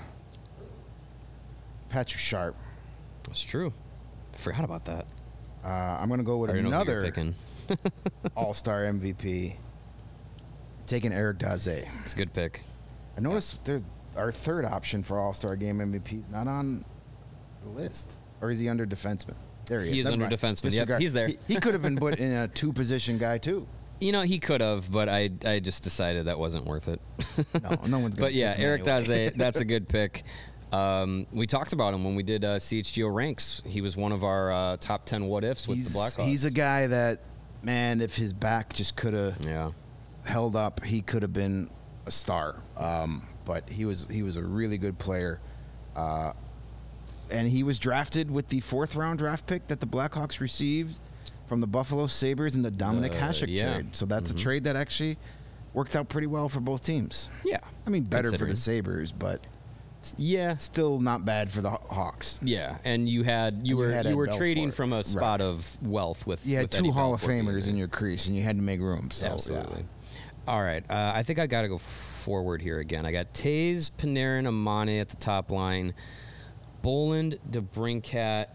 Patrick Sharp. That's true. I forgot about that. I'm going to go with another All-Star MVP, taking Eric Daze. It's a good pick. I noticed our third option for All-Star Game MVP is not on the list. Or is he under defenseman? There he is. He is under defenseman. Yep, he's there. He could have been put in a two-position guy, too. He could have, but I just decided that wasn't worth it. No one's going to. But Eric Daze, that's a good pick. We talked about him when we did CHGO ranks. He was one of our top 10 what-ifs with the Blackhawks. He's a guy that, man, if his back just could have held up, he could have been a star. But he was a really good player. And he was drafted with the 4th-round draft pick that the Blackhawks received from the Buffalo Sabres in the Dominic Hasek trade. So that's a trade that actually worked out pretty well for both teams. Yeah. I mean, better for the Sabres, but still not bad for the Hawks. Yeah, and you were trading from a spot of wealth with you had with two Eddie Hall of Belfour Famers in your crease, and you had to make room. So, absolutely. All right, I think I got to go forward here again. I got Taves, Panarin, Amane at the top line. Boland, DeBrincat.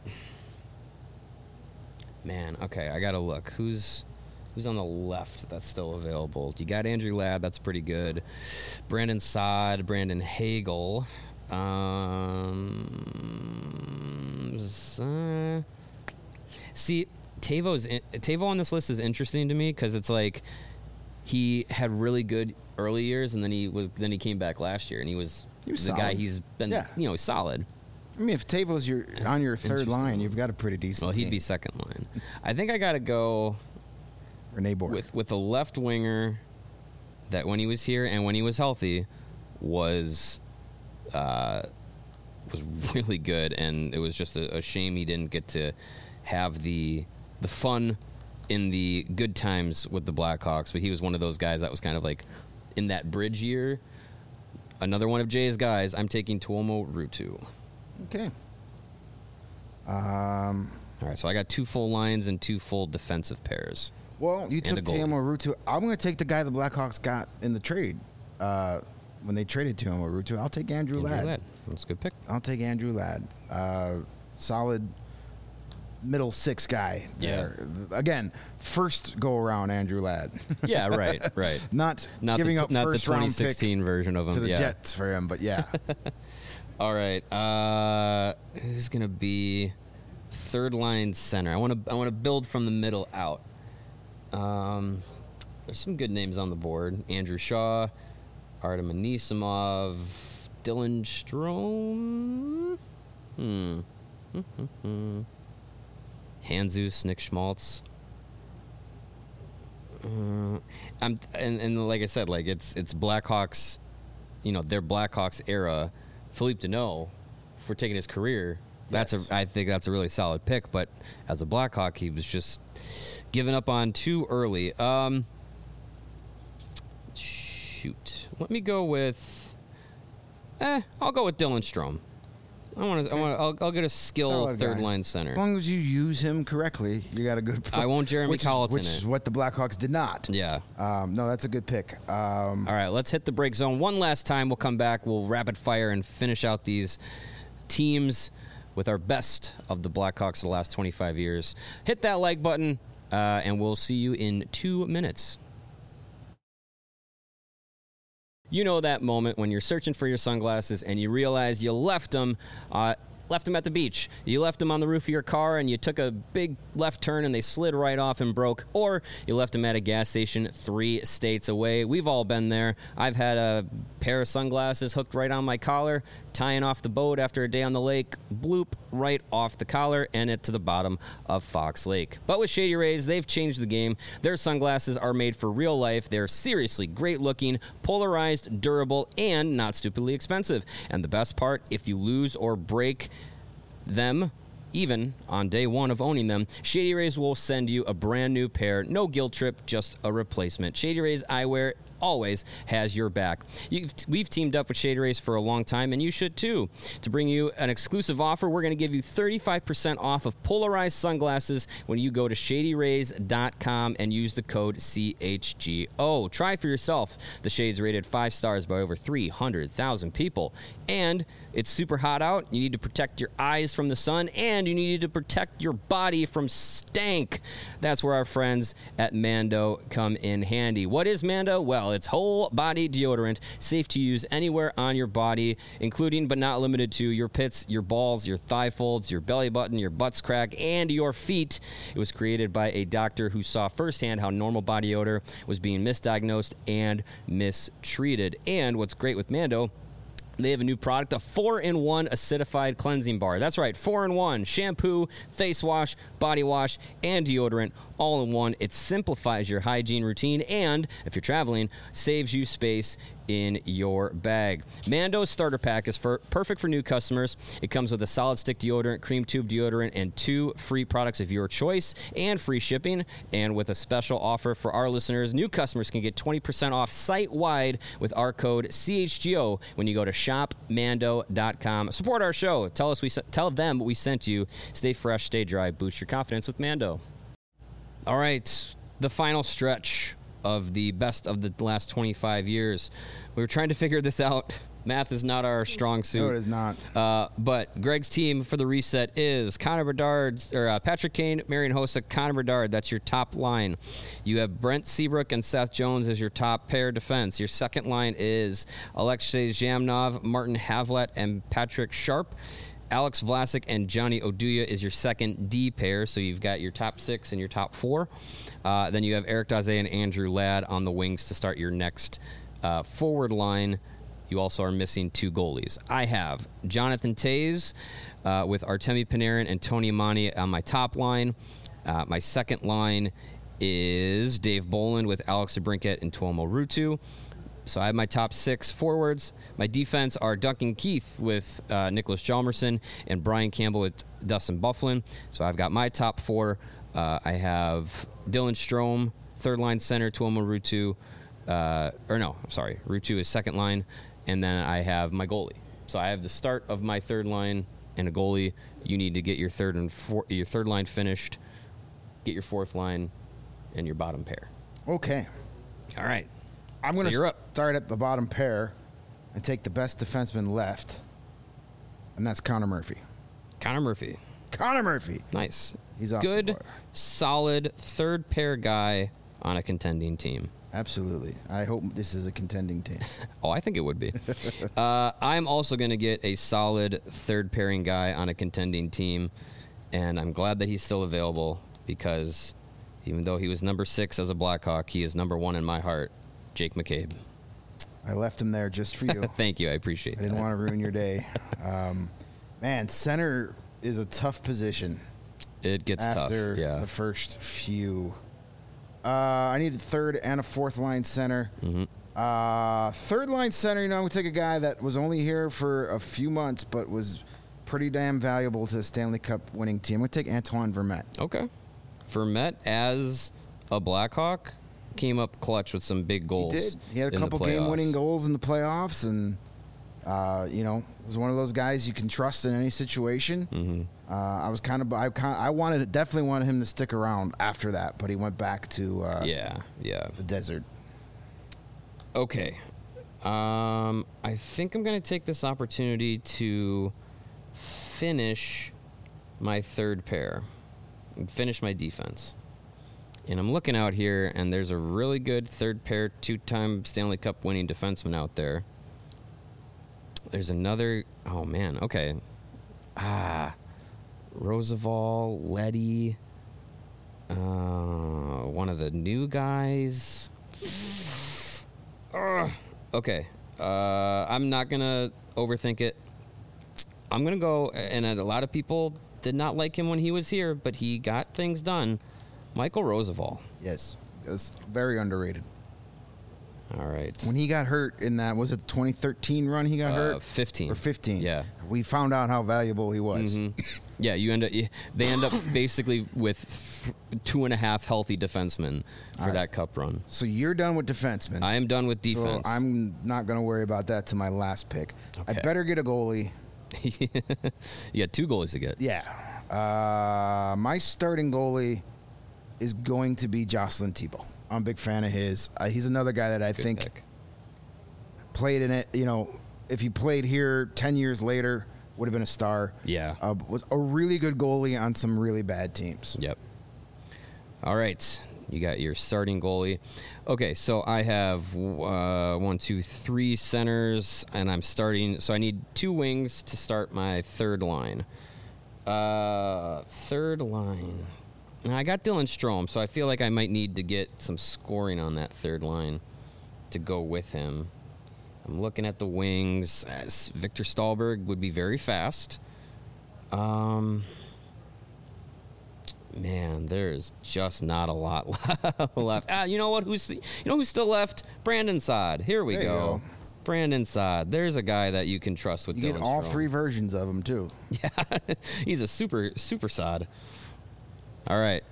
Man, okay, I gotta look. Who's on the left that's still available? You got Andrew Ladd, that's pretty good. Brandon Saad, Brandon Hagel. See, Tavo on this list is interesting to me because it's like he had really good early years, and then he came back last year, and he was the solid. guy he's been. Solid. I mean, if Tavo's on your third line, you've got a pretty decent. Well, he'd team. be second line. I think I got to go Rene Bourque with a left winger that when he was here and when he was healthy was really good, and it was just a shame he didn't get to have the fun in the good times with the Blackhawks. But he was one of those guys that was kind of like in that bridge year. Another one of Jay's guys. I'm taking Tuomo Ruutu. Okay. All right, so I got 2 full lines and 2 full defensive pairs. Well, you took Tuomo Ruutu. I'm going to take the guy the Blackhawks got in the trade when they traded Tuomo Ruutu. I'll take Andrew Ladd. That's a good pick. I'll take Andrew Ladd. Solid middle 6 guy there. Yeah. Again, first go around Andrew Ladd. Yeah, right. Not giving up not first the round 2016 pick version of him to the Jets for him, but yeah. All right. Who's gonna be third line center? I want to build from the middle out. There's some good names on the board: Andrew Shaw, Artem Anisimov, Dylan Strome, Handzus, Nick Schmaltz. And like I said, like it's Blackhawks, their Blackhawks era. Philippe Deneau, for taking his career, I think that's a really solid pick. But as a Blackhawk, he was just given up on too early. Shoot, let me go with. I'll go with Dylan Strome. I'll get a skilled third line center. As long as you use him correctly, you got a good. I won't Jeremy Colleton which is what the Blackhawks did not. Yeah. No, that's a good pick. All right, let's hit the break zone one last time. We'll come back. We'll rapid fire and finish out these teams with our best of the Blackhawks of the last 25 years. Hit that like button, and we'll see you in 2 minutes. You know that moment when you're searching for your sunglasses and you realize you left them at the beach. You left them on the roof of your car and you took a big left turn and they slid right off and broke. Or you left them at a gas station 3 states away. We've all been there. I've had a pair of sunglasses hooked right on my collar. tying off the boat after a day on the lake, bloop, right off the collar and it to the bottom of Fox Lake. But with Shady Rays, they've changed the game. Their sunglasses are made for real life. They're seriously great looking, polarized, durable, and not stupidly expensive. And the best part, if you lose or break them, even on day one of owning them, Shady Rays will send you a brand new pair. No guilt trip, just a replacement. Shady Rays Eyewear always has your back. We've teamed up with Shady Rays for a long time, and you should too. To bring you an exclusive offer, we're going to give you 35% off of polarized sunglasses when you go to shadyrays.com and use the code CHGO. Try for yourself. The Shades rated 5 stars by over 300,000 people. And it's super hot out. You need to protect your eyes from the sun, and you need to protect your body from stank. That's where our friends at Mando come in handy. What is Mando? Well, it's whole body deodorant, safe to use anywhere on your body, including but not limited to your pits, your balls, your thigh folds, your belly button, your butt's crack, and your feet. It was created by a doctor who saw firsthand how normal body odor was being misdiagnosed and mistreated. And what's great with Mando, they have a new product, a 4-in-1 acidified cleansing bar. That's right, 4-in-1. Shampoo, face wash, body wash, and deodorant all in one. It simplifies your hygiene routine and, if you're traveling, saves you space in your bag. Mando's starter pack is perfect for new customers. It comes with a solid stick deodorant, cream tube deodorant, and 2 free products of your choice and free shipping. And with a special offer for our listeners, new customers can get 20% off site-wide with our code CHGO when you go to shopmando.com. Support our show. Tell them we sent you. Stay fresh, stay dry, boost your confidence with Mando. All right, the final stretch of the best of the last 25 years. We were trying to figure this out. Math is not our strong suit. No, it is not. But Greg's team for the reset is Connor Bedard, or Patrick Kane, Marian Hossa, Connor Bedard. That's your top line. You have Brent Seabrook and Seth Jones as your top pair defense. Your second line is Alexei Zhamnov, Martin Havlat, and Patrick Sharp. Alex Vlasic and Johnny Oduya is your second D pair, so you've got your top 6 and your top 4. Then you have Eric Daze and Andrew Ladd on the wings to start your next forward line. You also are missing 2 goalies. I have Jonathan Toews with Artemi Panarin and Tony Amani on my top line. My second line is Dave Bolland with Alex DeBrincat and Tuomo Ruutu. So I have my top 6 forwards. My defense are Duncan Keith with Nicholas Hjalmarsson and Brian Campbell with Dustin Byfuglien. So I've got my top 4. I have Dylan Strome, third line center, Tuomo Ruutu. Ruutu is second line. And then I have my goalie. So I have the start of my third line and a goalie. You need to get your third line finished, get your fourth line, and your bottom pair. Okay. All right. I'm going to start at the bottom pair and take the best defenseman left, and that's Connor Murphy. Connor Murphy. Nice. He's off good, the board. Solid third pair guy on a contending team. Absolutely. I hope this is a contending team. Oh, I think it would be. I'm also going to get a solid third pairing guy on a contending team, and I'm glad that he's still available because even though he was number 6 as a Blackhawk, he is number 1 in my heart. Jake McCabe. I left him there just for you. Thank you. I appreciate that. I didn't want to ruin your day. Man, center is a tough position. It gets tough. After the first few. I need a third and a fourth line center. Mm-hmm. Third line center, I'm going to take a guy that was only here for a few months but was pretty damn valuable to the Stanley Cup winning team. I'm going to take Antoine Vermette. Okay. Vermette as a Blackhawk came up clutch with some big goals. He did. He had a couple game-winning goals in the playoffs, and was one of those guys you can trust in any situation. Mm-hmm. I definitely wanted him to stick around after that, but he went back to the desert. Okay. I think I'm going to take this opportunity to finish my third pair and finish my defense. And I'm looking out here, and there's a really good third pair, 2-time Stanley Cup winning defenseman out there. There's another. Oh, man. Okay. Roosevelt, Leddy. One of the new guys. Okay. I'm not going to overthink it. I'm going to go, and a lot of people did not like him when he was here, but he got things done. Michael Roosevelt. Yes, it's very underrated. All right. When he got hurt in that, was it the 2013 run he got hurt? 15. Or 15. Yeah. We found out how valuable he was. Mm-hmm. Yeah, they end up basically with 2.5 healthy defensemen for that cup run. So you're done with defensemen. I am done with defense. So I'm not going to worry about that to my last pick. Okay. I better get a goalie. You got 2 goalies to get. Yeah. My starting goalie is going to be Jocelyn Thibault. I'm a big fan of his. He's another guy that I think pick. Played in it. You know, if he played here 10 years later, would have been a star. Yeah. Was a really good goalie on some really bad teams. Yep. All right. You got your starting goalie. Okay, so I have 1, 2, 3 centers, and I'm starting. So I need 2 wings to start my third line. Third line. Now, I got Dylan Strome, so I feel like I might need to get some scoring on that third line to go with him. I'm looking at the wings. Victor Stahlberg would be very fast. Man, there's just not a lot left. You know what? Who's still left? Brandon Saad. Here we There you go. Brandon Saad. There's a guy that you can trust with. You Dylan get all Strome. 3 versions of him too. Yeah, he's a super Saad. All right.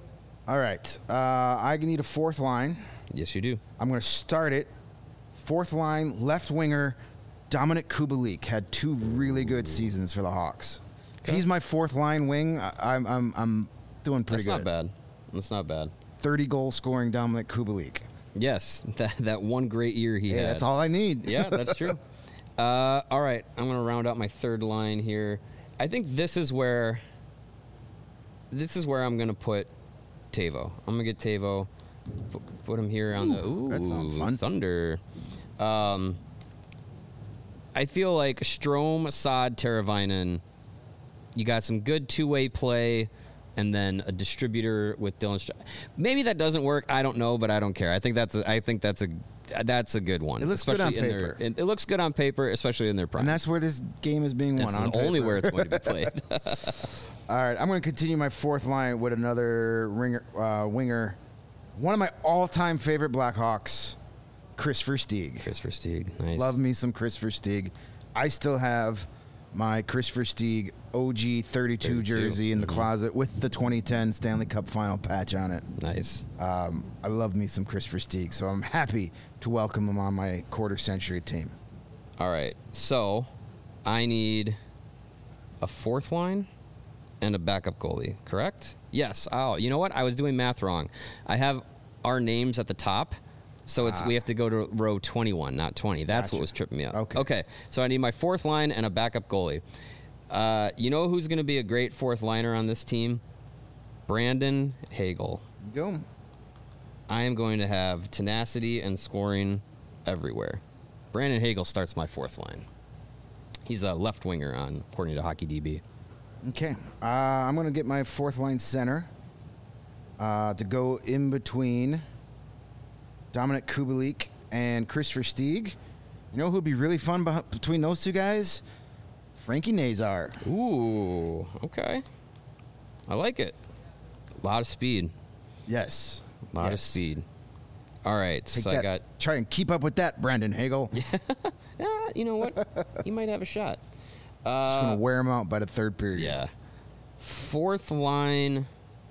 I need a 4th line. Yes, you do. I'm going to start it. 4th line, left winger, Dominic Kubalik had 2 really good seasons for the Hawks. Okay. He's my 4th line wing. I'm doing pretty That's good. That's not bad. 30 goal scoring Dominic Kubalik. Yes, that one great year he had. That's all I need. Yeah, that's true. All right, I'm going to round out my third line here. I think this is where I'm going to put Tavo. I'm going to get Tavo, put him here on the that sounds fun. Thunder. I feel like Strome, Saad, Teravainen, you got some good 2-way play, and then a distributor with Dylan Strome. Maybe that doesn't work. I don't know, but I don't care. I think that's a good one. It looks good on especially paper. It looks good on paper, especially in their prime. And that's where this game is being won. That's on only paper. where it's going to be played. All right, I'm going to continue my 4th line with another winger. One of my all-time favorite Blackhawks, Chris Versteeg. Chris Versteeg, nice. Love me some Chris Versteeg. I still have my Chris Versteeg OG 32 jersey in the closet with the 2010 Stanley Cup Final patch on it. Nice. I love me some Chris Versteeg, so I'm happy to welcome him on my quarter-century team. All right, so I need a 4th line and a backup goalie, correct? Yes. Oh, you know what? I was doing math wrong. I have our names at the top, so we have to go to row 21, not 20. That's Gotcha. what was tripping me up. Okay. So I need my 4th line and a backup goalie. You know who's going to be a great 4th liner on this team? Brandon Hagel. Go. I am going to have tenacity and scoring everywhere. Brandon Hagel starts my 4th line. He's a left winger according to HockeyDB. Okay. I'm going to get my 4th line center to go in between Dominic Kubalik and Chris Versteeg. You know who would be really fun between those 2 guys? Frankie Nazar. Ooh, okay. I like it. A lot of speed. Yes. A lot of speed. All right, Try and keep up with that, Brandon Hagel. Yeah, you know what? You might have a shot. Just going to wear him out by the 3rd period. Yeah. 4th line.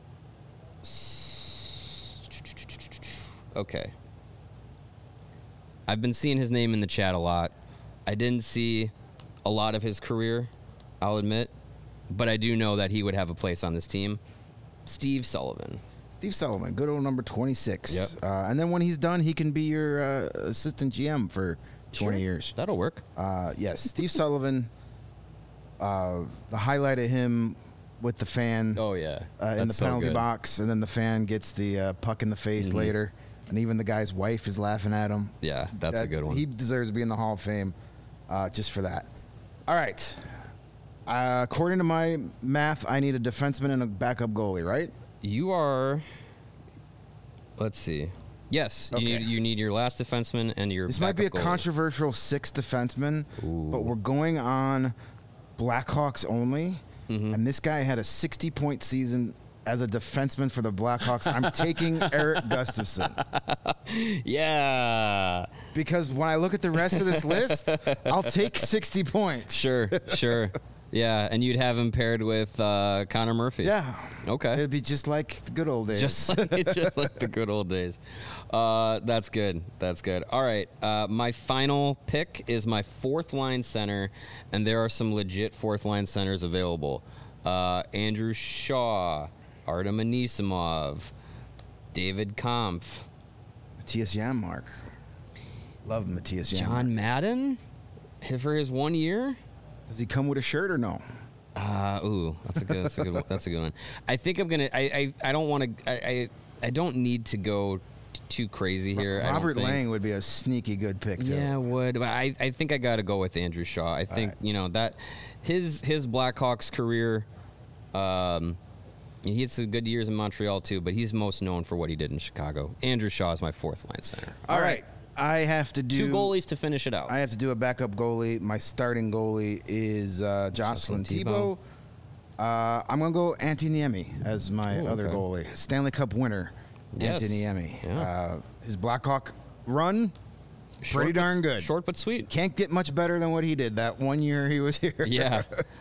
Okay. I've been seeing his name in the chat a lot. I didn't see a lot of his career, I'll admit, but I do know that he would have a place on this team. Steve Sullivan. Steve Sullivan, good old number 26. Yep. And then when he's done, he can be your assistant GM for 20 years. That'll work. Yes, Steve Sullivan, the highlight of him with the fan Oh, yeah. in the penalty box, and then the fan gets the puck in the face later, and even the guy's wife is laughing at him. Yeah, that's a good one. He deserves to be in the Hall of Fame just for that. All right. According to my math, I need a defenseman and a backup goalie, right? You are. Let's see. Yes, Okay. you need your last defenseman and your. This might be a backup goalie. controversial 6th defenseman, but we're going on Blackhawks only, and this guy had a 60-point season as a defenseman for the Blackhawks. I'm taking Erik Gustafsson. Yeah. Because when I look at the rest of this list, I'll take 60 points. Sure. Yeah, and you'd have him paired with Connor Murphy. Yeah. Okay. It'd be just like the good old days. Just like the good old days. That's good. All right. My final pick is my fourth line center, and there are some legit fourth line centers available. Andrew Shaw, Artem Anisimov, David Kampf, Matthias Janmark. Love Matthias Janmark. John Madden for his 1 year. Does he come with a shirt or no? That's a good one. I think I'm gonna. I don't want to. I don't need to go too crazy here. Robert Lang would be a sneaky good pick too. Yeah, would. But I think I got to go with Andrew Shaw. I think that his Blackhawks career. He had some good years in Montreal too, but he's most known for what he did in Chicago. Andrew Shaw is my fourth line center. All right. I have to do 2 goalies to finish it out. I have to do a backup goalie. My starting goalie is Jocelyn Thibault. I'm going to go Antti Niemi as my other goalie. Stanley Cup winner, Yes. Antti Niemi. Yeah. His Blackhawk run, pretty darn good. Short but sweet. Can't get much better than what he did that 1 year he was here. Yeah.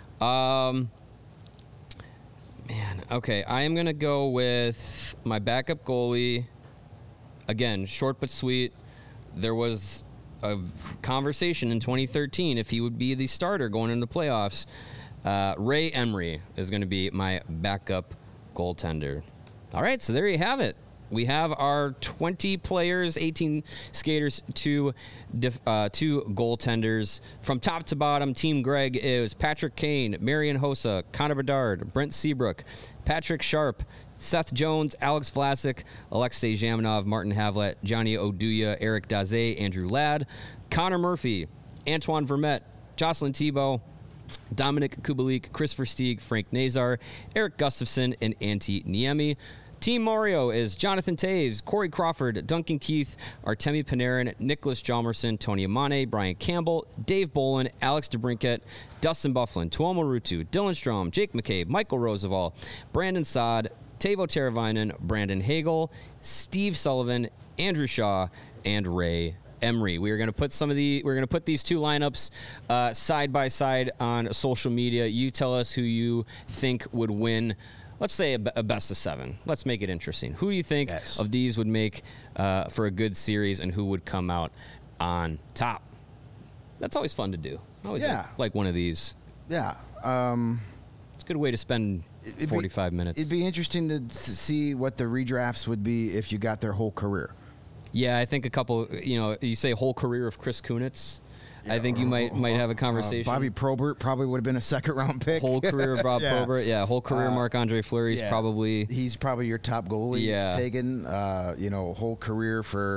Man, okay. I am going to go with my backup goalie. Again, short but sweet. There was a conversation in 2013 if he would be the starter going into the playoffs. Ray Emery is going to be my backup goaltender. All right, so there you have it. We have our 20 players, 18 skaters, 2 goaltenders. From top to bottom, Team Greg is Patrick Kane, Marian Hossa, Connor Bedard, Brent Seabrook, Patrick Sharp, Seth Jones, Alex Vlasic, Alexei Zhamenov, Martin Havlat, Johnny Oduya, Eric Daze, Andrew Ladd, Connor Murphy, Antoine Vermette, Jocelyn Thibault, Dominic Kubalik, Chris Versteeg, Frank Nazar, Erik Gustafsson, and Antti Niemi. Team Mario is Jonathan Toews, Corey Crawford, Duncan Keith, Artemi Panarin, Nicholas Hjalmarsson, Tony Amane, Brian Campbell, Dave Bolin, Alex DeBrincat, Dustin Byfuglien, Tuomo Ruutu, Dylan Strome, Jake McCabe, Michael Roosevelt, Brandon Saad, Teuvo Teravainen, Brandon Hagel, Steve Sullivan, Andrew Shaw, and Ray Emery. We're going to put these 2 lineups side by side on social media. You tell us who you think would win. Let's say a best of 7. Let's make it interesting. Who do you think of these would make for a good series, and who would come out on top? That's always fun to do. I always like one of these. Yeah. It's a good way to spend 45 minutes. It'd be interesting to see what the redrafts would be if you got their whole career. Yeah, I think a couple, you say whole career of Chris Kunitz. I think you might have a conversation. Bobby Probert probably would have been a second-round pick. Whole career of Bob Probert. Yeah, whole career Marc-Andre Fleury's probably. He's probably your top goalie taken. Whole career for,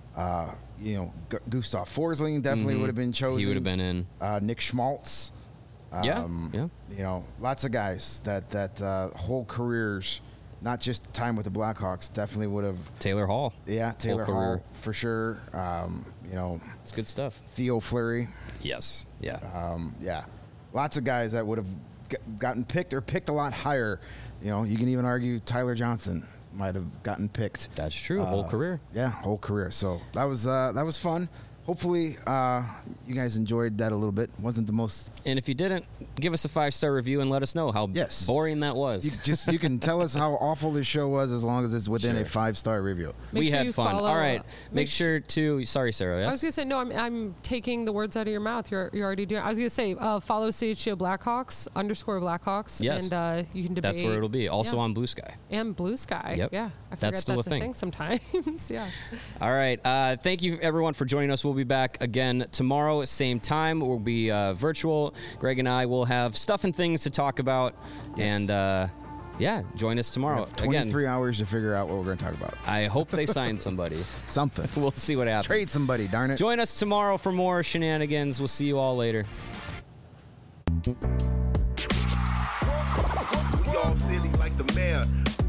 Gustav Forsling definitely would have been chosen. He would have been in. Nick Schmaltz. Lots of guys that whole careers, not just time with the Blackhawks, definitely would have. Taylor Hall. Yeah, Taylor Hall for sure. It's good stuff. Theo Fleury. Yes. Yeah. Lots of guys that would have gotten picked or picked a lot higher. You can even argue Tyler Johnson might have gotten picked. That's true. Whole career. Yeah, whole career. So that was fun. Hopefully, you guys enjoyed that a little bit. Wasn't the most. And if you didn't, give us a 5-star review and let us know how boring that was. You can tell us how awful this show was as long as it's within a 5-star review. We had fun. All right. Make sure to. Sorry, Sarah. Yes? I was gonna say no. I'm taking the words out of your mouth. You're already doing. I was gonna say follow CHGO Blackhawks _Blackhawks. Yes. And you can debate. That's where it'll be. Also on Blue Sky. And Blue Sky. Yep. Yeah. I forget that's still a thing sometimes. Yeah. All right. Thank you everyone for joining us. We'll be back again tomorrow, same time. We'll be virtual. Greg and I will have stuff and things to talk about. Yes. And join us tomorrow. 23 hours to figure out what we're going to talk about. I hope they sign somebody. Something. We'll see what happens. Trade somebody, darn it. Join us tomorrow for more shenanigans. We'll see you all later. We all silly like the mayor.